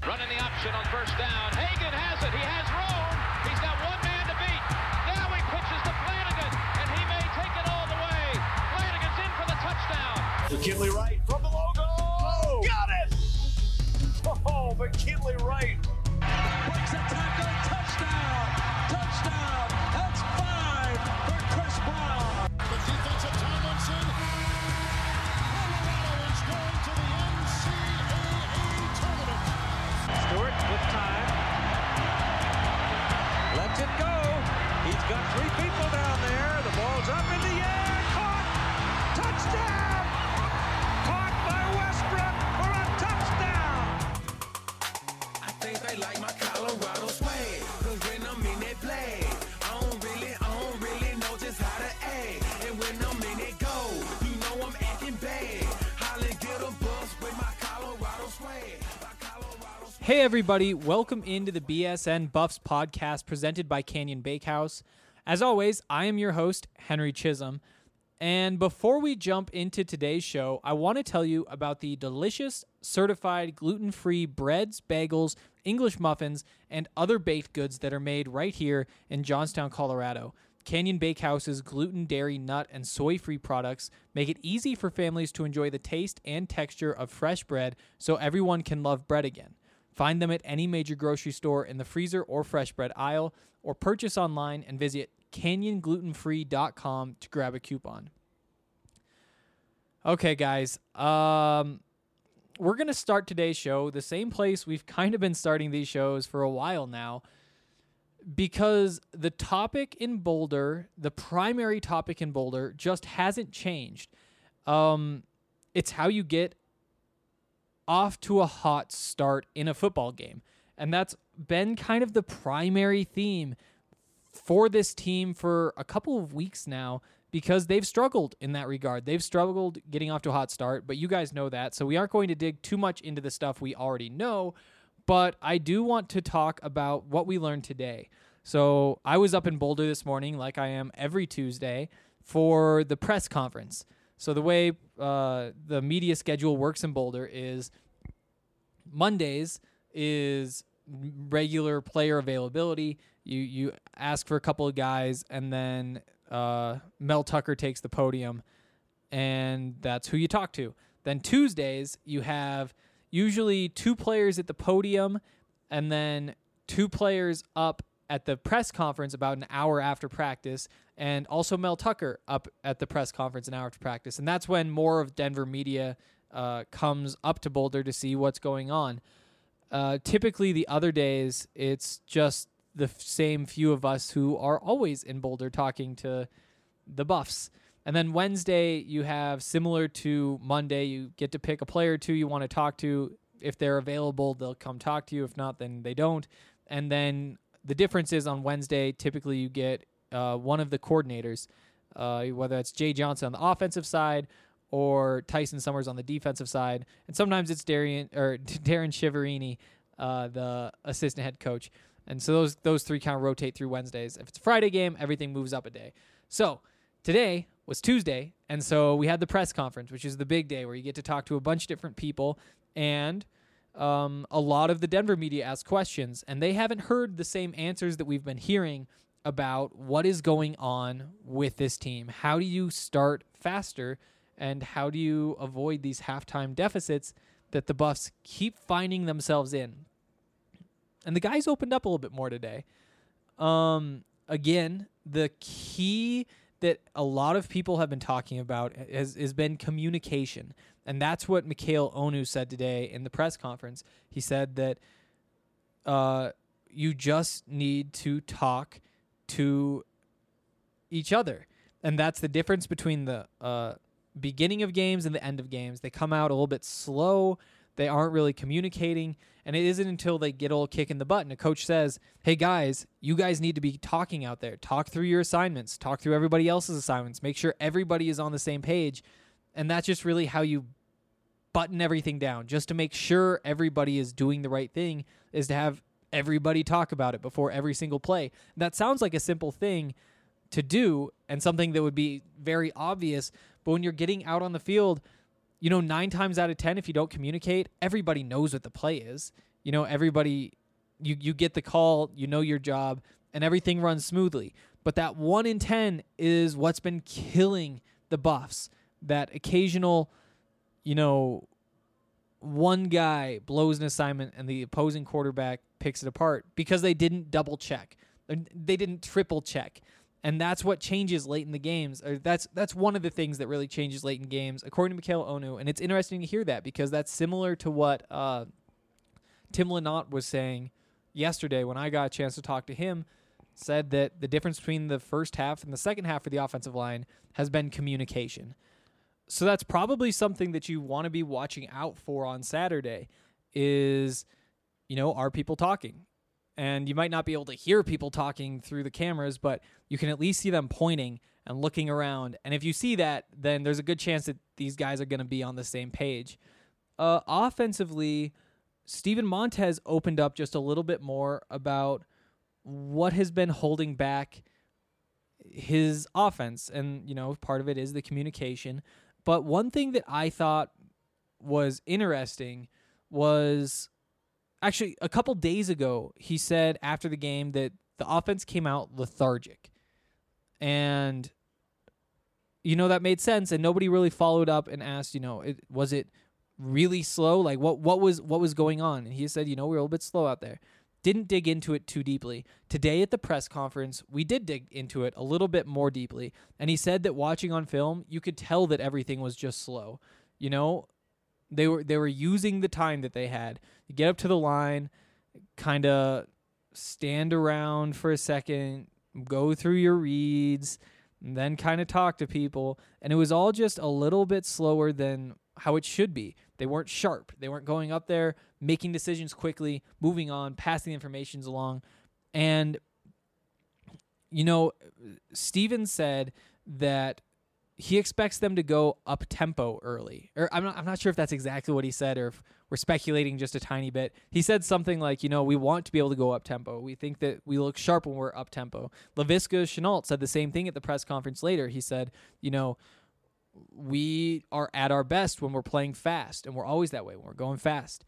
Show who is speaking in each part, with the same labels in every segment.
Speaker 1: Running the option on first down. Hagan has it. He has room. He's got one man to beat. Now he pitches to Flanagan, and he may take it all the way. Flanagan's in for the touchdown.
Speaker 2: McKinley Wright from the logo. Oh, got it! Oh, McKinley Wright.
Speaker 3: Breaks a tackle. Touchdown. Touchdown. That's 5 for Chris Brown.
Speaker 4: The defensive Tomlinson. Colorado is going to the NCAA tournament.
Speaker 3: Stewart with time. Lets it go. He's got 3 people down there. The ball's up in the air. Caught. Touchdown. Caught by Westbrook for a touchdown.
Speaker 5: I think they like my Colorado swag. Cause when I'm in that play, I don't really know just how to act. And when I'm in it go, you know I'm acting bad. Holly get a bus with my Colorado swag.
Speaker 6: Hey everybody, welcome into the BSN Buffs podcast presented by Canyon Bakehouse. As always, I am your host, Henry Chisholm. And before we jump into today's show, I want to tell you about the delicious, certified gluten-free breads, bagels, English muffins, and other baked goods that are made right here in Johnstown, Colorado. Canyon Bakehouse's gluten, dairy, nut, and soy-free products make it easy for families to enjoy the taste and texture of fresh bread so everyone can love bread again. Find them at any major grocery store in the freezer or fresh bread aisle, or purchase online and visit canyonglutenfree.com to grab a coupon. Okay, guys, we're going to start today's show the same place we've kind of been starting these shows for a while now, because the topic in Boulder, the primary topic in Boulder, just hasn't changed. It's how you get off to a hot start in a football game. And that's been kind of the primary theme for this team for a couple of weeks now, because they've struggled in that regard. They've struggled getting off to a hot start, but you guys know that. So we aren't going to dig too much into the stuff we already know, but I do want to talk about what we learned today. So I was up in Boulder this morning, like I am every Tuesday, for the press conference. So the way the media schedule works in Boulder is Mondays is regular player availability. You ask for a couple of guys, and then Mel Tucker takes the podium, and that's who you talk to. Then Tuesdays, you have usually 2 players at the podium, and then 2 players up at the press conference about an hour after practice, and also Mel Tucker up at the press conference an hour after practice. And that's when more of Denver media comes up to Boulder to see what's going on. Typically, the other days, it's just the same few of us who are always in Boulder talking to the Buffs. And then Wednesday, you have, similar to Monday, you get to pick a player or 2 you want to talk to. If they're available, they'll come talk to you. If not, then they don't. And then the difference is on Wednesday, typically you get one of the coordinators, whether it's Jay Johnson on the offensive side or Tyson Summers on the defensive side. And sometimes it's Darren Shiverini, the assistant head coach. And so those 3 kind of rotate through Wednesdays. If it's a Friday game, everything moves up a day. So today was Tuesday, and so we had the press conference, which is the big day where you get to talk to a bunch of different people, and a lot of the Denver media ask questions, and they haven't heard the same answers that we've been hearing about what is going on with this team. How do you start faster, and how do you avoid these halftime deficits that the Buffs keep finding themselves in? And the guys opened up a little bit more today. Again, the key that a lot of people have been talking about has been communication. And that's what Mikhail Onu said today in the press conference. He said that you just need to talk to each other. And that's the difference between the beginning of games and the end of games. They come out a little bit slow. They aren't really communicating, and it isn't until they get a little kick in the butt and a coach says, hey guys, you guys need to be talking out there. Talk through your assignments. Talk through everybody else's assignments. Make sure everybody is on the same page. And that's just really how you button everything down. Just to make sure everybody is doing the right thing is to have everybody talk about it before every single play. That sounds like a simple thing to do and something that would be very obvious, but when you're getting out on the field, 9 times out of 10, if you don't communicate, everybody knows what the play is. everybody, you get the call, your job, and everything runs smoothly. But that 1 in 10 is what's been killing the Buffs. That occasional, one guy blows an assignment and the opposing quarterback picks it apart because they didn't double check. They didn't triple check. And that's what changes late in the games. Or that's one of the things that really changes late in games, according to Mikhail Onu. And it's interesting to hear that because that's similar to what Tim Lynott was saying yesterday when I got a chance to talk to him. Said that the difference between the first half and the second half for the offensive line has been communication. So that's probably something that you want to be watching out for on Saturday is, are people talking? And you might not be able to hear people talking through the cameras, but you can at least see them pointing and looking around. And if you see that, then there's a good chance that these guys are going to be on the same page. Offensively, Steven Montez opened up just a little bit more about what has been holding back his offense. And, part of it is the communication. But one thing that I thought was interesting was actually a couple days ago, he said after the game that the offense came out lethargic. And, that made sense. And nobody really followed up and asked, was it really slow? Like what was going on? And he said, we're a little bit slow out there. Didn't dig into it too deeply. Today at the press conference, we did dig into it a little bit more deeply. And he said that watching on film, you could tell that everything was just slow. They were using the time that they had. You get up to the line, kind of stand around for a second, go through your reads, and then kind of talk to people. And it was all just a little bit slower than how it should be. They weren't sharp. They weren't going up there, making decisions quickly, moving on, passing the information along. And, Steven said that he expects them to go up-tempo early. Or I'm not sure if that's exactly what he said or if we're speculating just a tiny bit. He said something like, we want to be able to go up-tempo. We think that we look sharp when we're up-tempo. Laviska Shenault said the same thing at the press conference later. He said, we are at our best when we're playing fast, and we're always that way when we're going fast.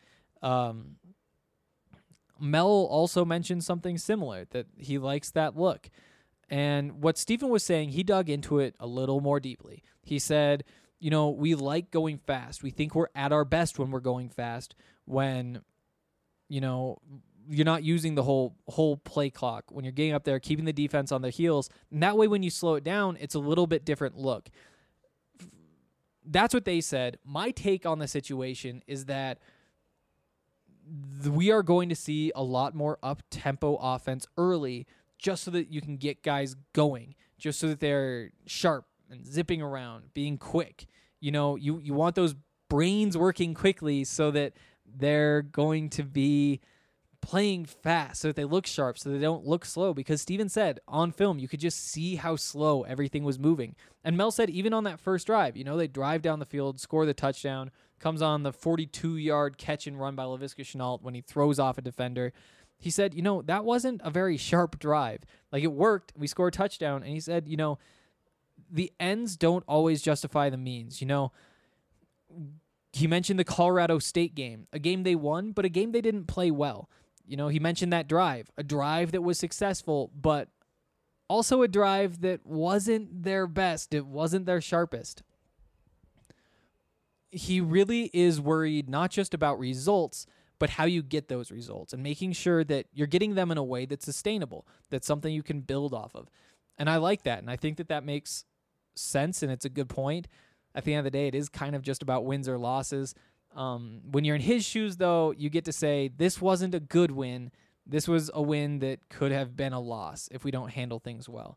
Speaker 6: Mel also mentioned something similar, that he likes that look. And what Stephen was saying, he dug into it a little more deeply. He said, we like going fast. We think we're at our best when we're going fast, when, you're not using the whole play clock, when you're getting up there, keeping the defense on their heels. And that way, when you slow it down, it's a little bit different look. That's what they said. My take on the situation is that we are going to see a lot more up-tempo offense early just so that you can get guys going, just so that they're sharp and zipping around, being quick. You want those brains working quickly so that they're going to be playing fast, so that they look sharp, so they don't look slow. Because Steven said on film, you could just see how slow everything was moving. And Mel said even on that first drive, they drive down the field, score the touchdown, comes on the 42-yard catch and run by Laviska Shenault when he throws off a defender. He said, that wasn't a very sharp drive. Like, it worked. We scored a touchdown. And he said, the ends don't always justify the means. He mentioned the Colorado State game, a game they won, but a game they didn't play well. He mentioned that drive, a drive that was successful, but also a drive that wasn't their best. It wasn't their sharpest. He really is worried not just about results, but how you get those results and making sure that you're getting them in a way that's sustainable, that's something you can build off of. And I like that, and I think that makes sense, and it's a good point. At the end of the day, it is kind of just about wins or losses. When you're in his shoes, though, you get to say, this wasn't a good win. This was a win that could have been a loss if we don't handle things well.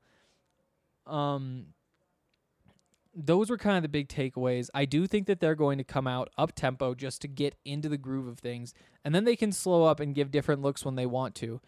Speaker 6: Those were kind of the big takeaways. I do think that they're going to come out up-tempo just to get into the groove of things, and then they can slow up and give different looks when they want to.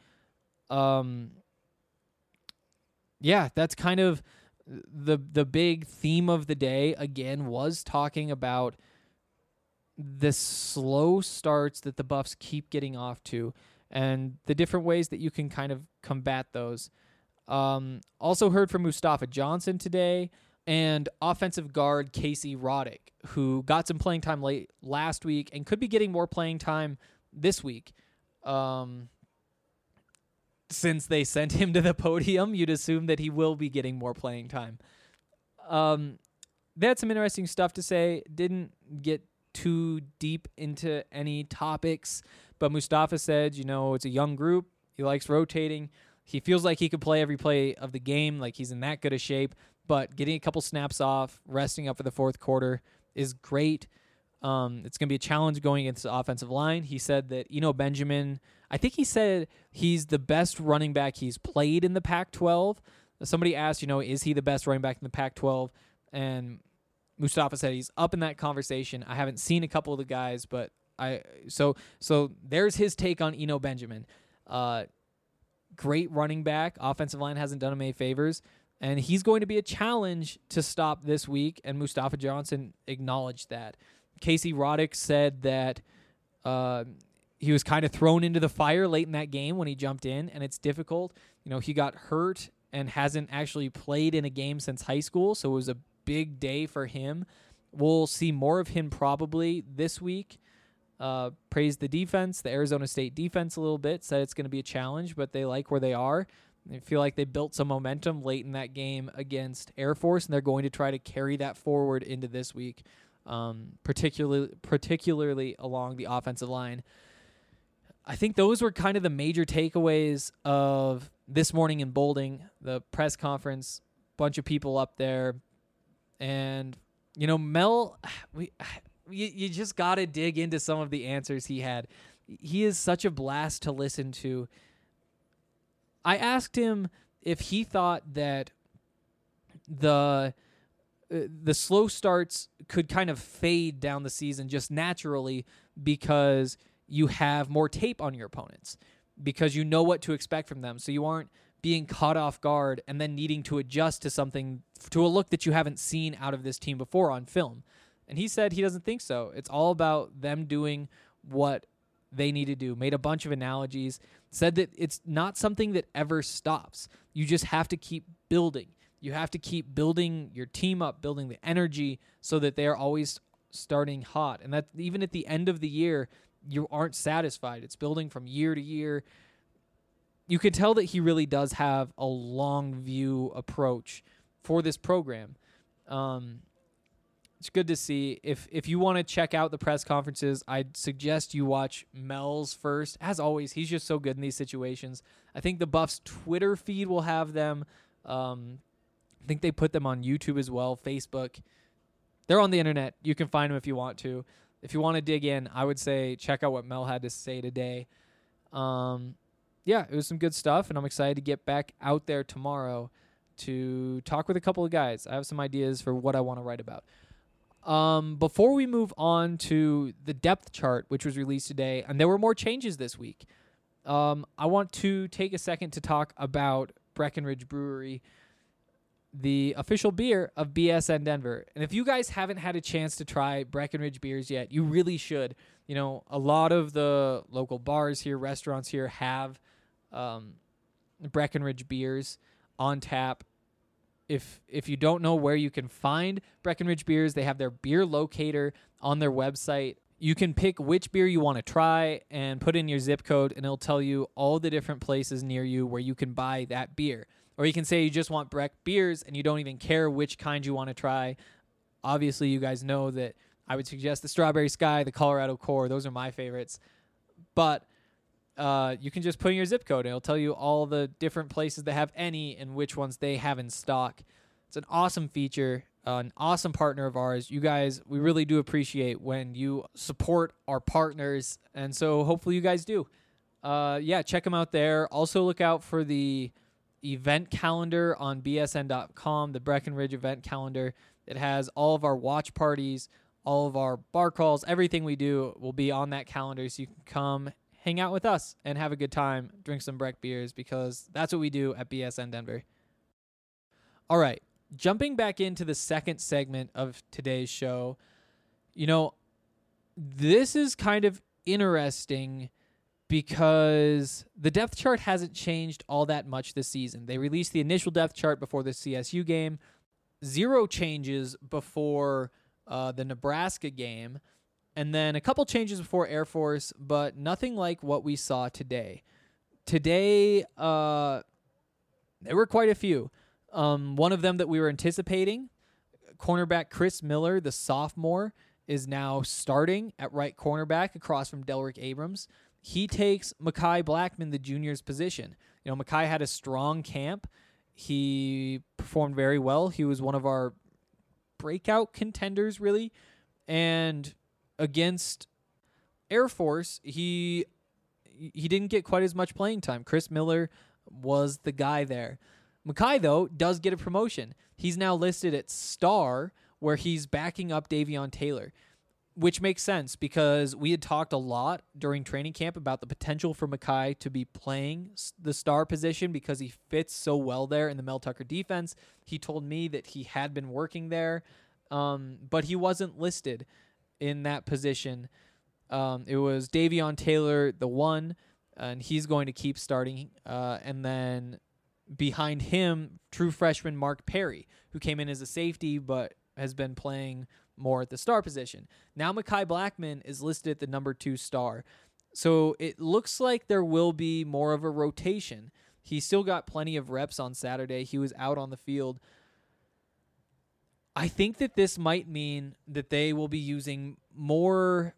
Speaker 6: Yeah, that's kind of the big theme of the day, again, was talking about the slow starts that the Buffs keep getting off to and the different ways that you can kind of combat those. Also heard from Mustafa Johnson today and offensive guard Casey Roddick, who got some playing time late last week and could be getting more playing time this week. Since they sent him to the podium, you'd assume that he will be getting more playing time. They had some interesting stuff to say. Didn't get too deep into any topics, but Mustafa said, it's a young group. He likes rotating. He feels like he could play every play of the game, like he's in that good a shape, but getting a couple snaps off, resting up for the fourth quarter is great. It's going to be a challenge going against the offensive line. He said that Eno Benjamin, I think he said he's the best running back he's played in the Pac-12. Somebody asked, is he the best running back in the Pac-12? And Mustafa said he's up in that conversation. I haven't seen a couple of the guys, but so there's his take on Eno Benjamin. Great running back. Offensive line hasn't done him any favors. And he's going to be a challenge to stop this week, and Mustafa Johnson acknowledged that. Casey Roddick said that he was kind of thrown into the fire late in that game when he jumped in, and it's difficult. He got hurt and hasn't actually played in a game since high school, so it was a big day for him. We'll see more of him probably this week. Praised the defense, the Arizona State defense a little bit, said it's going to be a challenge, but they like where they are. They feel like they built some momentum late in that game against Air Force, and they're going to try to carry that forward into this week, particularly along the offensive line. I think those were kind of the major takeaways of this morning in Boulding, the press conference, bunch of people up there. And, Mel, you just got to dig into some of the answers he had. He is such a blast to listen to. I asked him if he thought that the slow starts could kind of fade down the season just naturally because you have more tape on your opponents, because you know what to expect from them. So you aren't being caught off guard and then needing to adjust to a look that you haven't seen out of this team before on film. And he said he doesn't think so. It's all about them doing what they need to do. Made a bunch of analogies. Said that it's not something that ever stops. You just have to keep building. You have to keep building your team up, building the energy so that they are always starting hot. And that even at the end of the year, you aren't satisfied. It's building from year to year. You can tell that he really does have a long view approach for this program. It's good to see. If you want to check out the press conferences, I'd suggest you watch Mel's first. As always, he's just so good in these situations. I think the Buffs Twitter feed will have them. I think they put them on YouTube as well, Facebook. They're on the internet. You can find them if you want to. If you want to dig in, I would say check out what Mel had to say today. Yeah, it was some good stuff, and I'm excited to get back out there tomorrow to talk with a couple of guys. I have some ideas for what I want to write about. Before we move on to the depth chart, which was released today, and there were more changes this week, I want to take a second to talk about Breckenridge Brewery, the official beer of BSN Denver. And if you guys haven't had a chance to try Breckenridge beers yet, you really should. A lot of the local bars here, restaurants here have Breckenridge beers on tap. If you don't know where you can find Breckenridge beers, they have their beer locator on their website. You can pick which beer you want to try and put in your zip code, and it'll tell you all the different places near you where you can buy that beer. Or you can say you just want Breck beers and you don't even care which kind you want to try. Obviously, you guys know that I would suggest the Strawberry Sky, the Colorado Core. Those are my favorites. But you can just put in your zip code, and it'll tell you all the different places that have any and which ones they have in stock. It's an awesome feature, an awesome partner of ours. You guys, we really do appreciate when you support our partners, and so hopefully you guys do. Yeah, check them out there. Also look out for the event calendar on bsn.com, the Breckenridge event calendar. It has all of our watch parties, all of our bar crawls, everything we do will be on that calendar, so you can come hang out with us and have a good time, drink some Breck beers, because that's what we do at BSN Denver. All right, jumping back into the second segment of today's show, this is kind of interesting because the depth chart hasn't changed all that much this season. They released the initial depth chart before the CSU game, 0 changes before the Nebraska game, And then a couple changes before Air Force, but nothing like what we saw today. Today, there were quite a few. One of them that we were anticipating, cornerback Chris Miller, the sophomore, is now starting at right cornerback across from Delrick Abrams. He takes Mekhi Blackman, the junior's position. You know, Mekhi had a strong camp. He performed very well. He was one of our breakout contenders, really. And against Air Force, he didn't get quite as much playing time. Chris Miller was the guy there. Mekhi, though, does get a promotion. He's now listed at star, where he's backing up Davion Taylor, which makes sense because we had talked a lot during training camp about the potential for Mekhi to be playing the star position because he fits so well there in the Mel Tucker defense. He told me that he had been working there, but he wasn't listed in that position. It was Davion Taylor, the one, and he's going to keep starting. And then behind him, true freshman Mark Perry, who came in as a safety but has been playing more at the star position. Now Mekhi Blackman is listed at the number 2 star. So it looks like there will be more of a rotation. He still got plenty of reps on Saturday. He was out on the field. I think that this might mean that they will be using more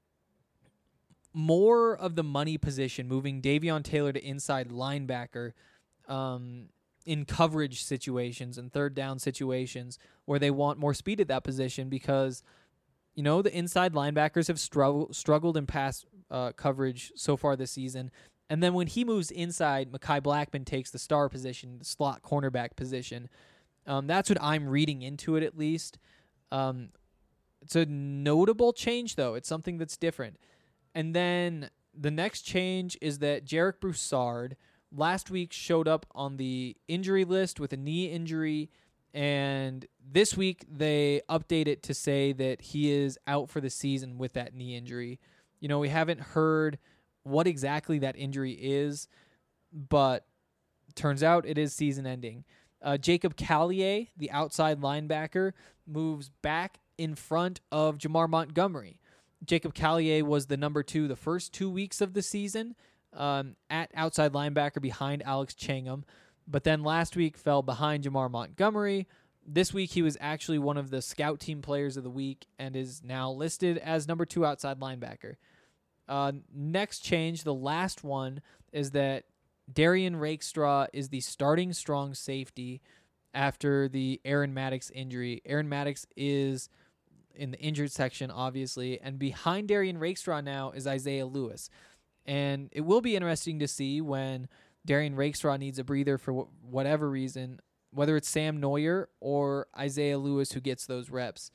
Speaker 6: of the money position, moving Davion Taylor to inside linebacker in coverage situations and third down situations where they want more speed at that position because, you know, the inside linebackers have struggled in pass coverage so far this season. And then when he moves inside, Mekhi Blackman takes the star position, the slot cornerback position. That's what I'm reading into it, at least. It's a notable change, though. It's something that's different. And then the next change is that Jarek Broussard last week showed up on the injury list with a knee injury, and this week they update it to say that he is out for the season with that knee injury. You know, we haven't heard what exactly that injury is, but turns out it is season-ending. Jacob Callier, the outside linebacker, moves back in front of Jamar Montgomery. Jacob Callier was the number 2 the first 2 weeks of the season at outside linebacker behind Alex Changham, but then last week fell behind Jamar Montgomery. This week he was actually one of the scout team players of the week and is now listed as number 2 outside linebacker. Next change, the last one, is that Darian Rakestraw is the starting strong safety after the Aaron Maddox injury. Aaron Maddox is in the injured section, obviously, and behind Darian Rakestraw now is Isaiah Lewis. And it will be interesting to see when Darian Rakestraw needs a breather for whatever reason, whether it's Sam Neuer or Isaiah Lewis who gets those reps.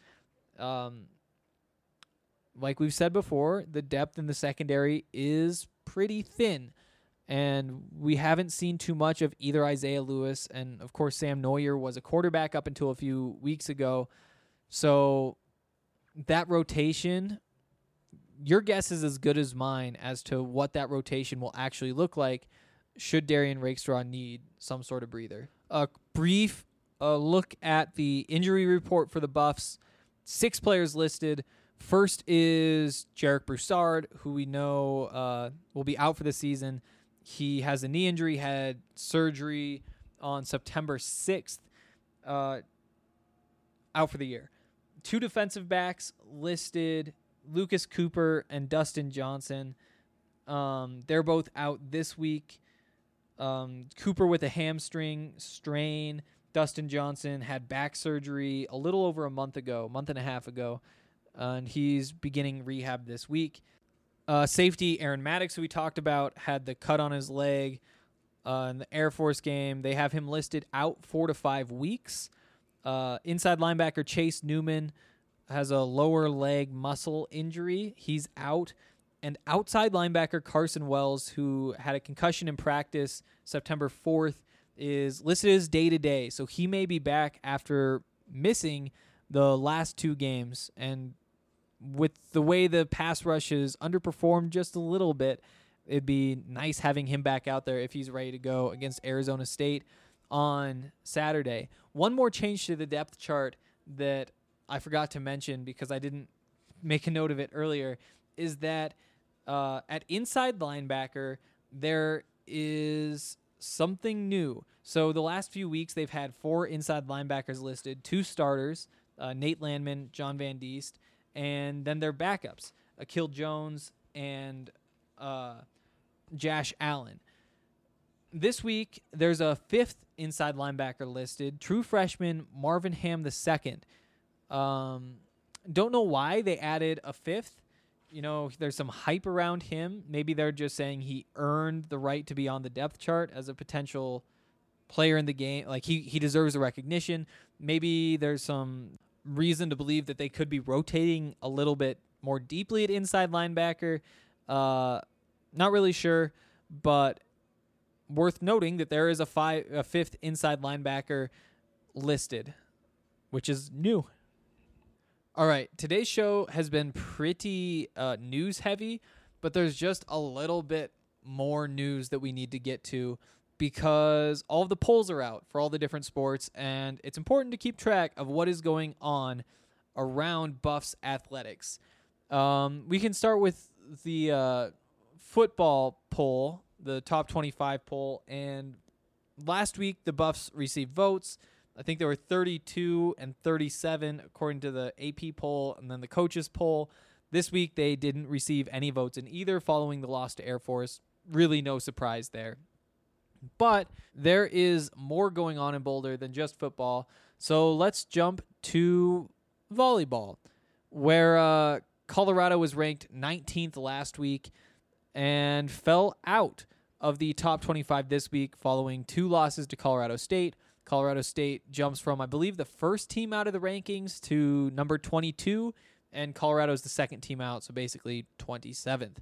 Speaker 6: Like we've said before, the depth in the secondary is pretty thin, and we haven't seen too much of either Isaiah Lewis, and of course Sam Neuer was a quarterback up until a few weeks ago. So that rotation, your guess is as good as mine as to what that rotation will actually look like should Darian Rakestraw need some sort of breather. A brief look at the injury report for the Buffs. 6 players listed. First is Jarek Broussard, who we know will be out for the season. He has a knee injury, had surgery on September 6th, out for the year. 2 defensive backs listed, Lucas Cooper and Dustin Johnson. They're both out this week. Cooper with a hamstring strain. Dustin Johnson had back surgery a little over a month and a half ago, and he's beginning rehab this week. Safety Aaron Maddox, who we talked about, had the cut on his leg in the Air Force game. They have him listed out 4 to 5 weeks. Inside linebacker Chase Newman has a lower leg muscle injury. He's out. And outside linebacker Carson Wells, who had a concussion in practice September 4th, is listed as day-to-day. So he may be back after missing the last 2 games. And with the way the pass rush has underperformed just a little bit, it'd be nice having him back out there if he's ready to go against Arizona State on Saturday. One more change to the depth chart that I forgot to mention because I didn't make a note of it earlier, is that at inside linebacker, there is something new. So the last few weeks, they've had 4 inside linebackers listed, 2 starters, Nate Landman, John Van Diest, and then their backups, Akil Jones and Josh Allen. This week, there's a 5th inside linebacker listed, true freshman Marvin Ham II. Don't know why they added a 5th. You know, there's some hype around him. Maybe they're just saying he earned the right to be on the depth chart as a potential player in the game. Like, he deserves the recognition. Maybe there's some reason to believe that they could be rotating a little bit more deeply at inside linebacker. Not really sure, but worth noting that there is a 5th inside linebacker listed, which is new. All right, today's show has been pretty news heavy, but there's just a little bit more news that we need to get to because all of the polls are out for all the different sports, and it's important to keep track of what is going on around Buffs athletics. We can start with the football poll, the top 25 poll, and last week the Buffs received votes. I think there were 32 and 37 according to the AP poll and then the coaches poll. This week they didn't receive any votes in either following the loss to Air Force. Really no surprise there. But there is more going on in Boulder than just football. So let's jump to volleyball, where Colorado was ranked 19th last week and fell out of the top 25 this week following 2 losses to Colorado State. Colorado State jumps from, I believe, the first team out of the rankings to number 22, and Colorado's the second team out, so basically 27th.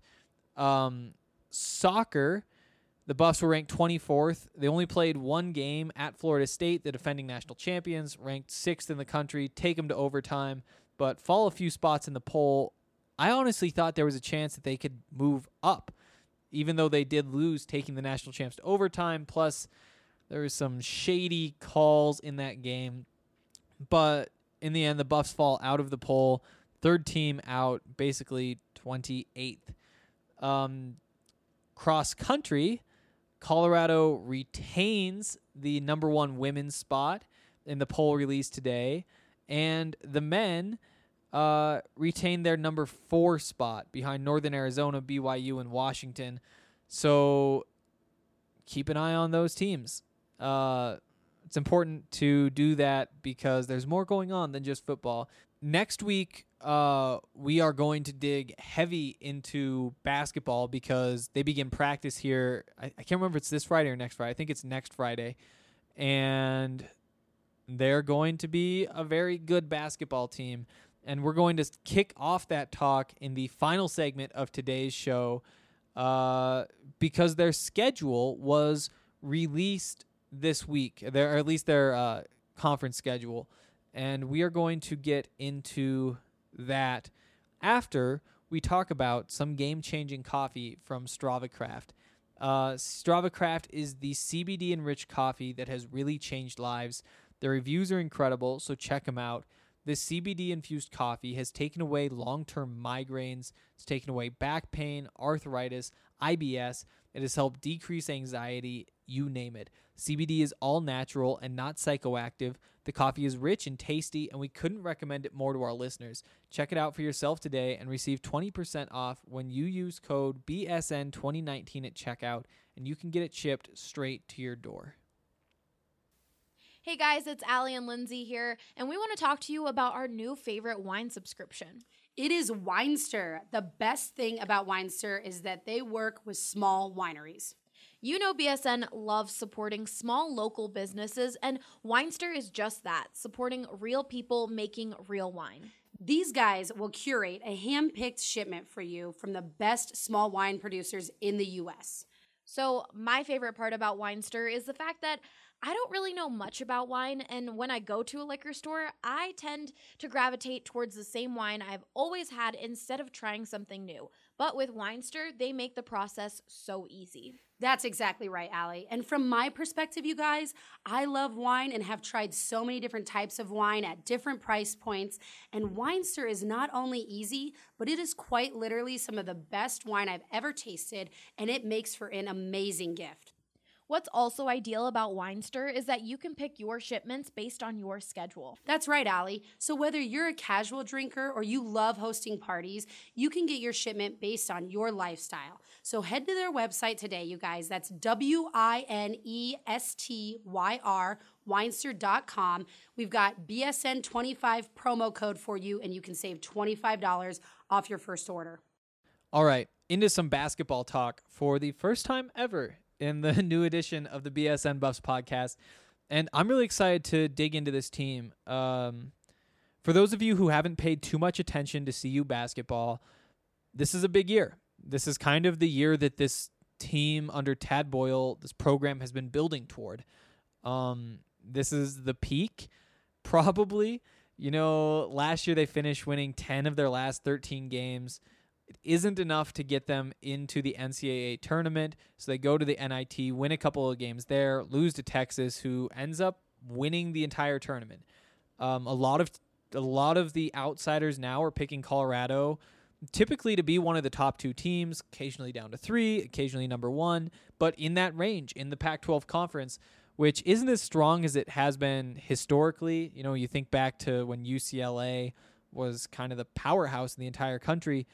Speaker 6: Soccer, the Buffs were ranked 24th. They only played 1 game at Florida State, the defending national champions, ranked 6th in the country, take them to overtime, but fall a few spots in the poll. I honestly thought there was a chance that they could move up, even though they did lose, taking the national champs to overtime, plus there was some shady calls in that game. But in the end, the Buffs fall out of the poll. 3rd team out, basically 28th. Cross country, Colorado retains the number 1 women's spot in the poll released today. And the men retain their number 4 spot behind Northern Arizona, BYU, and Washington. So keep an eye on those teams. It's important to do that because there's more going on than just football. Next week, we are going to dig heavy into basketball because they begin practice here. I can't remember if it's this Friday or next Friday. I think it's next Friday. And they're going to be a very good basketball team. And we're going to kick off that talk in the final segment of today's show because their schedule was released this week, or at least their conference schedule. And we are going to get into that after we talk about some game-changing coffee from Strava Craft. Strava Craft is the CBD-enriched coffee that has really changed lives. Their reviews are incredible, so check them out. This CBD-infused coffee has taken away long-term migraines. It's taken away back pain, arthritis, IBS. It has helped decrease anxiety, you name it. CBD is all natural and not psychoactive. The coffee is rich and tasty, and we couldn't recommend it more to our listeners. Check it out for yourself today and receive 20% off when you use code BSN2019 at checkout, and you can get it shipped straight to your door.
Speaker 7: Hey guys, it's Allie and Lindsay here, and we want to talk to you about our new favorite wine subscription.
Speaker 8: It is Winester. The best thing about Winester is that they work with small wineries.
Speaker 7: You know BSN loves supporting small local businesses, and Winester is just that, supporting real people making real wine.
Speaker 8: These guys will curate a hand-picked shipment for you from the best small wine producers in the U.S.
Speaker 7: So my favorite part about Winester is the fact that I don't really know much about wine, and when I go to a liquor store, I tend to gravitate towards the same wine I've always had instead of trying something new. But with Weinster, they make the process so easy.
Speaker 8: That's exactly right, Allie. And from my perspective, you guys, I love wine and have tried so many different types of wine at different price points. And Weinster is not only easy, but it is quite literally some of the best wine I've ever tasted, and it makes for an amazing gift.
Speaker 7: What's also ideal about Weinster is that you can pick your shipments based on your schedule.
Speaker 8: That's right, Allie. So whether you're a casual drinker or you love hosting parties, you can get your shipment based on your lifestyle. So head to their website today, you guys. That's WINESTYR, Weinster.com. We've got BSN25 promo code for you, and you can save $25 off your first order.
Speaker 6: All right, into some basketball talk for the first time ever in the new edition of the BSN Buffs podcast. And I'm really excited to dig into this team. For those of you who haven't paid too much attention to CU basketball, this is a big year. This is kind of the year that this team under Tad Boyle, this program has been building toward. This is the peak, probably. You know, last year they finished winning 10 of their last 13 games. It isn't enough to get them into the NCAA tournament, so they go to the NIT, win a couple of games there, lose to Texas, who ends up winning the entire tournament. A lot of the outsiders now are picking Colorado, typically to be one of the top 2 teams, occasionally down to 3, occasionally number 1, but in that range in the Pac-12 conference, which isn't as strong as it has been historically. You know, you think back to when UCLA was kind of the powerhouse in the entire country.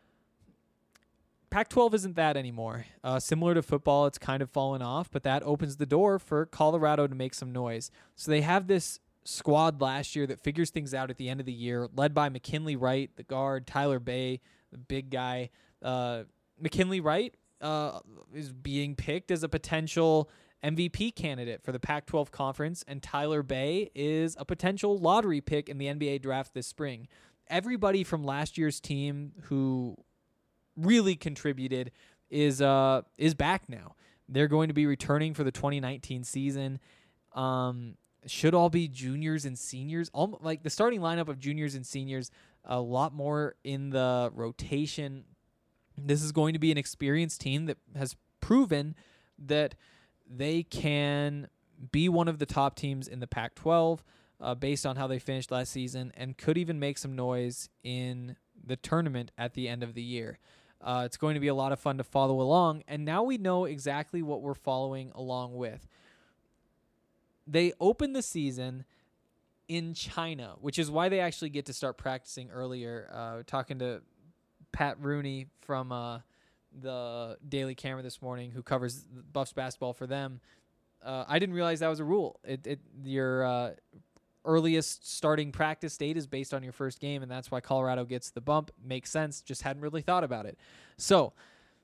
Speaker 6: Pac-12 isn't that anymore. Similar to football, it's kind of fallen off, but that opens the door for Colorado to make some noise. So they have this squad last year that figures things out at the end of the year, led by McKinley Wright, the guard, Tyler Bay, the big guy. McKinley Wright is being picked as a potential MVP candidate for the Pac-12 conference, and Tyler Bay is a potential lottery pick in the NBA draft this spring. Everybody from last year's team who really contributed is back now. They're going to be returning for the 2019 season. Should all be juniors and seniors. Like the starting lineup of juniors and seniors, a lot more in the rotation. This is going to be an experienced team that has proven that they can be one of the top teams in the Pac-12 based on how they finished last season, and could even make some noise in the tournament at the end of the year. It's going to be a lot of fun to follow along, and now we know exactly what we're following along with. They opened the season in China, which is why they actually get to start practicing earlier. Talking to Pat Rooney from the Daily Camera this morning, who covers Buffs basketball for them. I didn't realize that was a rule. Your earliest starting practice date is based on your first game, and that's why Colorado gets the bump. Makes sense. Just hadn't really thought about it. So,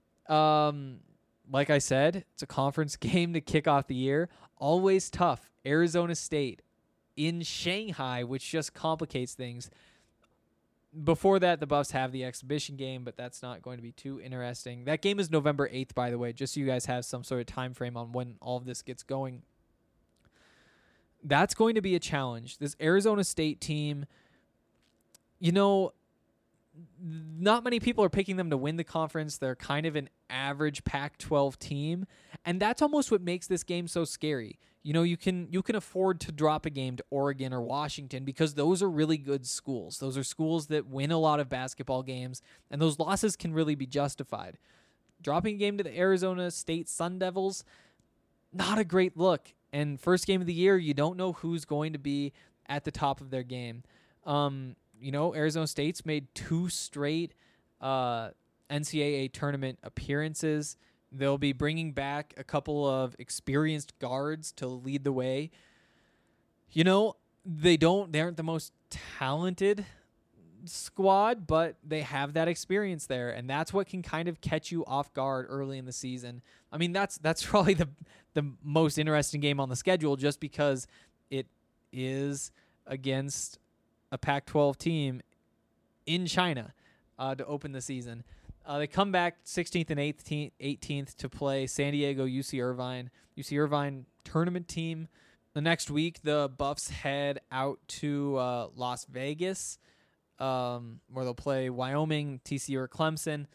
Speaker 6: like I said, it's a conference game to kick off the year. Always tough. Arizona State in Shanghai, which just complicates things. Before that, the Buffs have the exhibition game, but that's not going to be too interesting. That game is November 8th, by the way, just so you guys have some sort of time frame on when all of this gets going. That's going to be a challenge. This Arizona State team, you know, not many people are picking them to win the conference. They're kind of an average Pac-12 team, and that's almost what makes this game so scary. You know, you can afford to drop a game to Oregon or Washington because those are really good schools. Those are schools that win a lot of basketball games, and those losses can really be justified. Dropping a game to the Arizona State Sun Devils, not a great look. And first game of the year, you don't know who's going to be at the top of their game. You know, Arizona State's made 2 straight NCAA tournament appearances. They'll be bringing back a couple of experienced guards to lead the way. You know, they aren't the most talented squad, but they have that experience there, and that's what can kind of catch you off guard early in the season. I mean, that's probably the most interesting game on the schedule, just because it is against a Pac-12 team in China to open the season. They come back 16th and 18th to play San Diego UC Irvine. UC Irvine tournament team. The next week, the Buffs head out to Las Vegas, where they'll play Wyoming, TCU, or Clemson.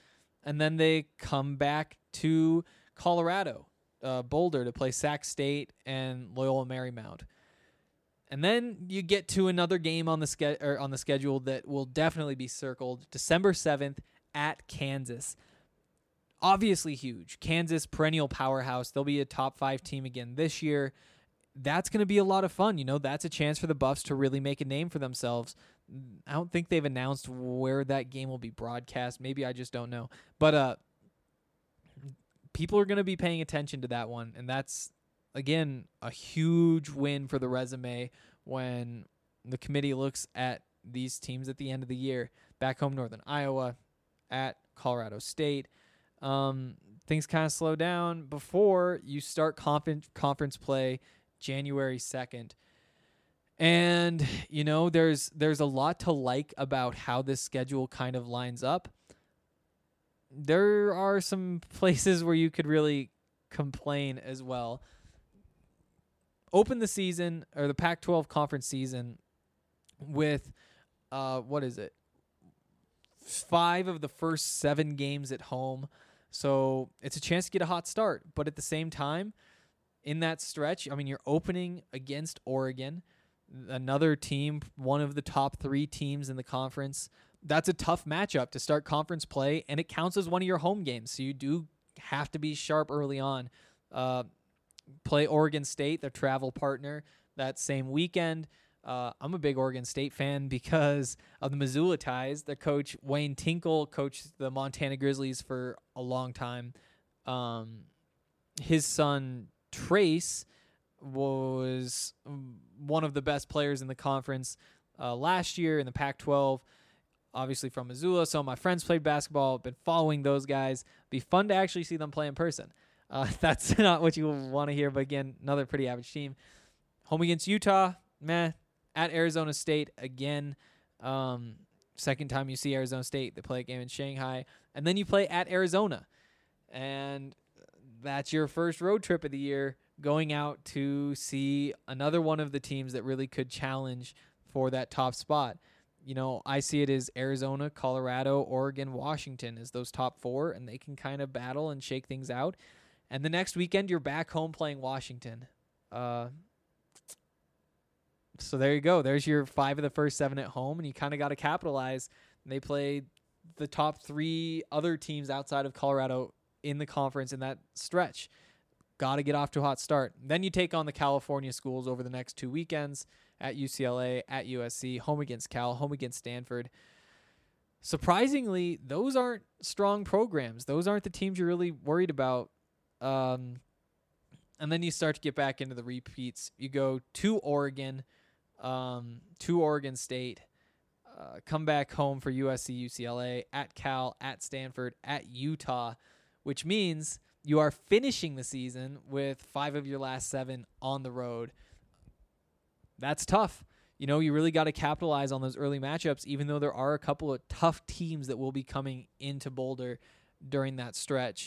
Speaker 6: and then they come back to Colorado, Boulder, to play Sac State and Loyola Marymount. And then you get to another game on the schedule that will definitely be circled, December 7th at Kansas. Obviously huge. Kansas, perennial powerhouse. They'll be a top 5 team again this year. That's going to be a lot of fun. You know, that's a chance for the Buffs to really make a name for themselves. I don't think they've announced where that game will be broadcast. Maybe I just don't know. But people are going to be paying attention to that one, and that's, again, a huge win for the resume when the committee looks at these teams at the end of the year. Back home, Northern Iowa, at Colorado State. Things kind of slow down before you start conference play January 2nd. And, you know, there's a lot to like about how this schedule kind of lines up. There are some places where you could really complain as well. Open the season, or the Pac-12 conference season, with, 5 of the first 7 games at home. So it's a chance to get a hot start. But at the same time, in that stretch, I mean, you're opening against Oregon, another team, one of the top 3 teams in the conference. That's a tough matchup to start conference play, and it counts as one of your home games. So you do have to be sharp early on. Play Oregon State, their travel partner, that same weekend. I'm a big Oregon State fan because of the Missoula ties. Their coach, Wayne Tinkle, coached the Montana Grizzlies for a long time. His son, Trace, was one of the best players in the conference last year in the Pac-12, obviously from Missoula. So my friends played basketball, been following those guys. Be fun to actually see them play in person. That's not what you want to hear, but again, another pretty average team. Home against Utah, meh. At Arizona State, again, second time you see Arizona State, they play a game in Shanghai. And then you play at Arizona. And that's your first road trip of the year, going out to see another one of the teams that really could challenge for that top spot. You know, I see it as Arizona, Colorado, Oregon, Washington as those top 4, and they can kind of battle and shake things out. And the next weekend, you're back home playing Washington. So there you go. There's your 5 of the first 7 at home, and you kind of got to capitalize. They play the top 3 other teams outside of Colorado in the conference in that stretch. Got to get off to a hot start. Then you take on the California schools over the next 2 weekends at UCLA, at USC, home against Cal, home against Stanford. Surprisingly, those aren't strong programs. Those aren't the teams you're really worried about. And then you start to get back into the repeats. You go to Oregon, to Oregon State, come back home for USC, UCLA, at Cal, at Stanford, at Utah, which means you are finishing the season with 5 of your last 7 on the road. That's tough. You know, you really got to capitalize on those early matchups, even though there are a couple of tough teams that will be coming into Boulder during that stretch.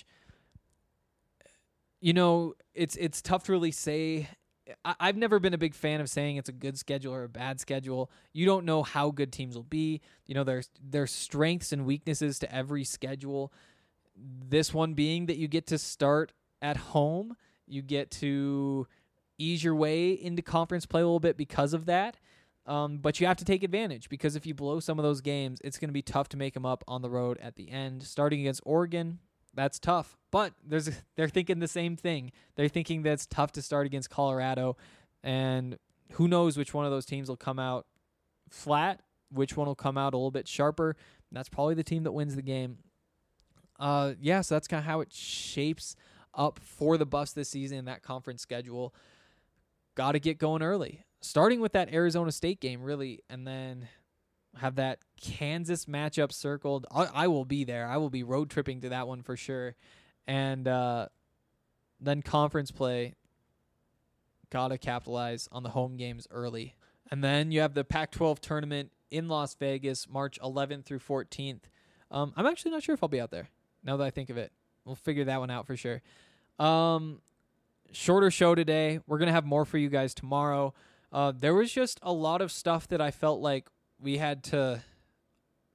Speaker 6: You know, it's tough to really say. I've never been a big fan of saying it's a good schedule or a bad schedule. You don't know how good teams will be. You know, there's strengths and weaknesses to every schedule. This one being that you get to start at home. You get to ease your way into conference play a little bit because of that. But you have to take advantage, because if you blow some of those games, it's going to be tough to make them up on the road at the end. Starting against Oregon, that's tough. But they're thinking the same thing. They're thinking that it's tough to start against Colorado, and who knows which one of those teams will come out flat, which one will come out a little bit sharper. That's probably the team that wins the game. So that's kind of how it shapes up for the Buffs this season in that conference schedule. Got to get going early, starting with that Arizona State game, really, and then have that Kansas matchup circled. I will be there. I will be road tripping to that one for sure. And then conference play, got to capitalize on the home games early. And then you have the Pac-12 tournament in Las Vegas, March 11th through 14th. I'm actually not sure if I'll be out there, now that I think of it. We'll figure that one out for sure. Shorter show today. We're going to have more for you guys tomorrow. There was just a lot of stuff that I felt like we had to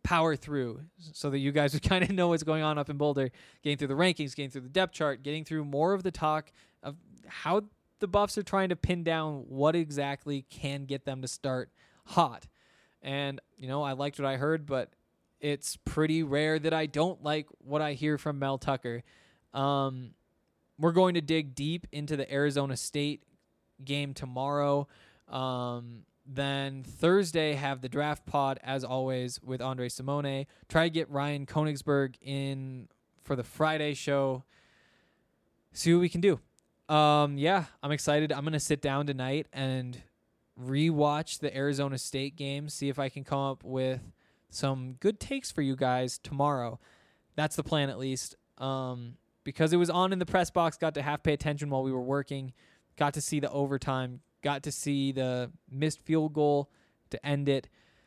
Speaker 6: power through so that you guys would kind of know what's going on up in Boulder, getting through the rankings, getting through the depth chart, getting through more of the talk of how the Buffs are trying to pin down what exactly can get them to start hot. And, I liked what I heard, but it's pretty rare that I don't like what I hear from Mel Tucker. We're going to dig deep into the Arizona State game tomorrow. Then Thursday, have the draft pod, as always, with Andre Simone. Try to get Ryan Konigsberg in for the Friday show. See what we can do. I'm excited. I'm going to sit down tonight and rewatch the Arizona State game, see if I can come up with some good takes for you guys tomorrow. That's the plan, at least. Because it was on in the press box, got to half pay attention while we were working, got to see the overtime, got to see the missed field goal to end it.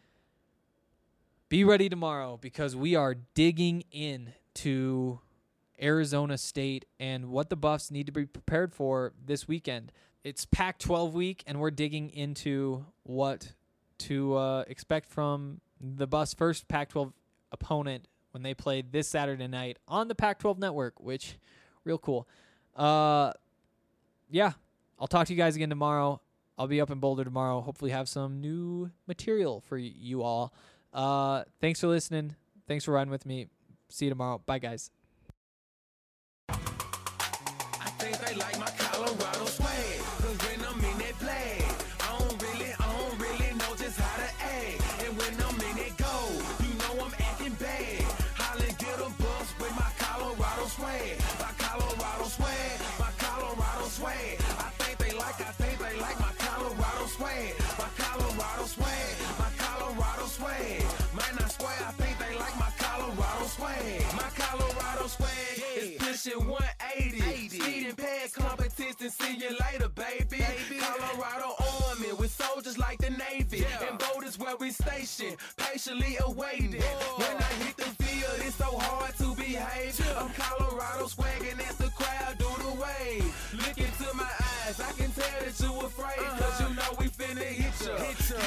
Speaker 6: Be ready tomorrow because we are digging in to Arizona State and what the Buffs need to be prepared for this weekend. It's Pac-12 week, and we're digging into what to expect from the Buffs' first Pac-12 opponent when they play this Saturday night on the Pac-12 network, which, real cool. I'll talk to you guys again tomorrow. I'll be up in Boulder tomorrow. Hopefully have some new material for you all. Thanks for listening. Thanks for riding with me. See you tomorrow. Bye, guys.
Speaker 5: I think they like my Colorado swag, 'cause when I'm in that flag, I don't really know just how to act. And when I'm in that goal, you know I'm acting bad. Holla, get a bus with my Colorado swag. My Colorado swag, my Colorado swag. I think they like my Colorado swag. My Colorado swag, my Colorado swag. Man, I swear, I think they like my Colorado swag. My Colorado swag is pushing 180. Speeding past competition, see you later, baby. Colorado Army with soldiers like the Navy. And voters where we stationed, patiently awaiting. When I hit the field, it's so hard to behave. I'm Colorado swagging as the crowd do the wave. Look into my eyes, I can tell that you afraid. 'Cause you know we finna hit ya.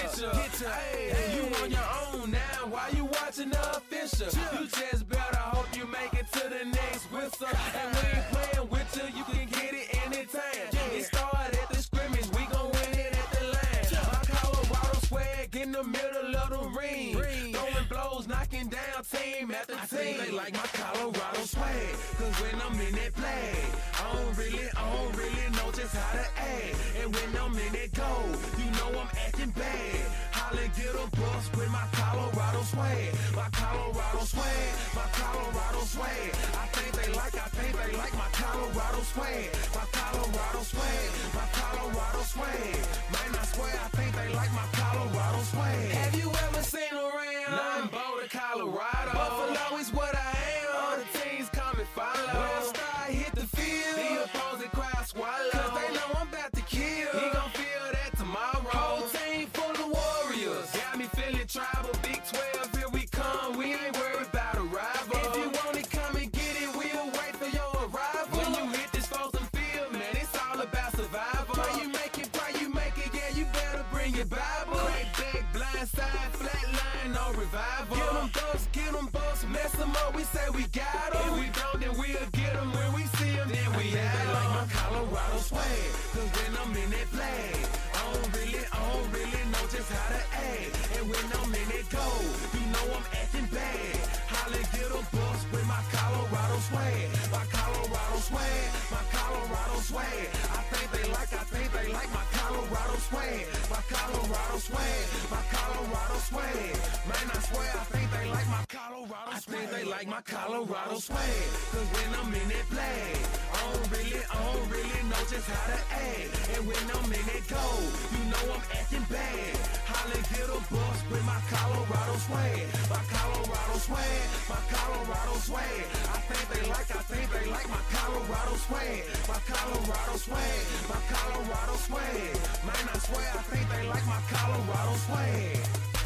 Speaker 5: Hey, you on your own now, why you watching the official? You just better hope you make it to the next whistle. And we ain't playing with you can get it anytime. It started at the scrimmage, we gon' win it at the line. My Colorado swag in the middle of the ring. Throwing blows, knocking down team after team. I think they like my Colorado swag, 'cause when I'm in that flag, I don't really know just how to act. And when I'm in that goal, you know I'm acting bad. Holla, get a bus with my Colorado swag. My Colorado swag, my Colorado swag. I think they like my Colorado swag. My Colorado swag, my Colorado swag. Man, I swear, I think they like my Colorado swag. Have you ever seen around? Nah, I'm Boulder, Colorado. Buffalo is what I am. All the teams come and follow. When I start hit the field, the opposing crowd swallow. 'Cause they know I'm about to kill. He gon' feel that tomorrow. Whole team full of warriors. Got me feeling tribal. Big 12, here we come. We ain't worried about a rival. If you want it, come and get it. We'll wait for your arrival. When you hit this frozen field, man, it's all about survival. Pray you make it, yeah, you better bring your Bible. Crack back, blind side, flat line, no revival. Get them busts, mess them up, we say we got them. If we don't, then we'll get them. When we see them, then we have them. They like my Colorado swag, 'cause when I'm in that flag, I don't really know just how to act. And when I'm in that goal, you know I'm acting bad. Holla, get a bus with my Colorado swag. My Colorado swag, my Colorado swag. I think they like my Colorado swag. My Colorado swag, my Colorado swag. Man, I swear, I think they like my Colorado swag. I think they like my Colorado swag, 'cause when I'm in that flag, I don't really know just how to act. And when I'm in that goal, you know I'm acting bad. Holla, get a bus with my Colorado swag. My Colorado swag, my Colorado swag. I think they like my Colorado swag. My Colorado swag, my Colorado swag. Man, I swear, I think they like my Colorado swag.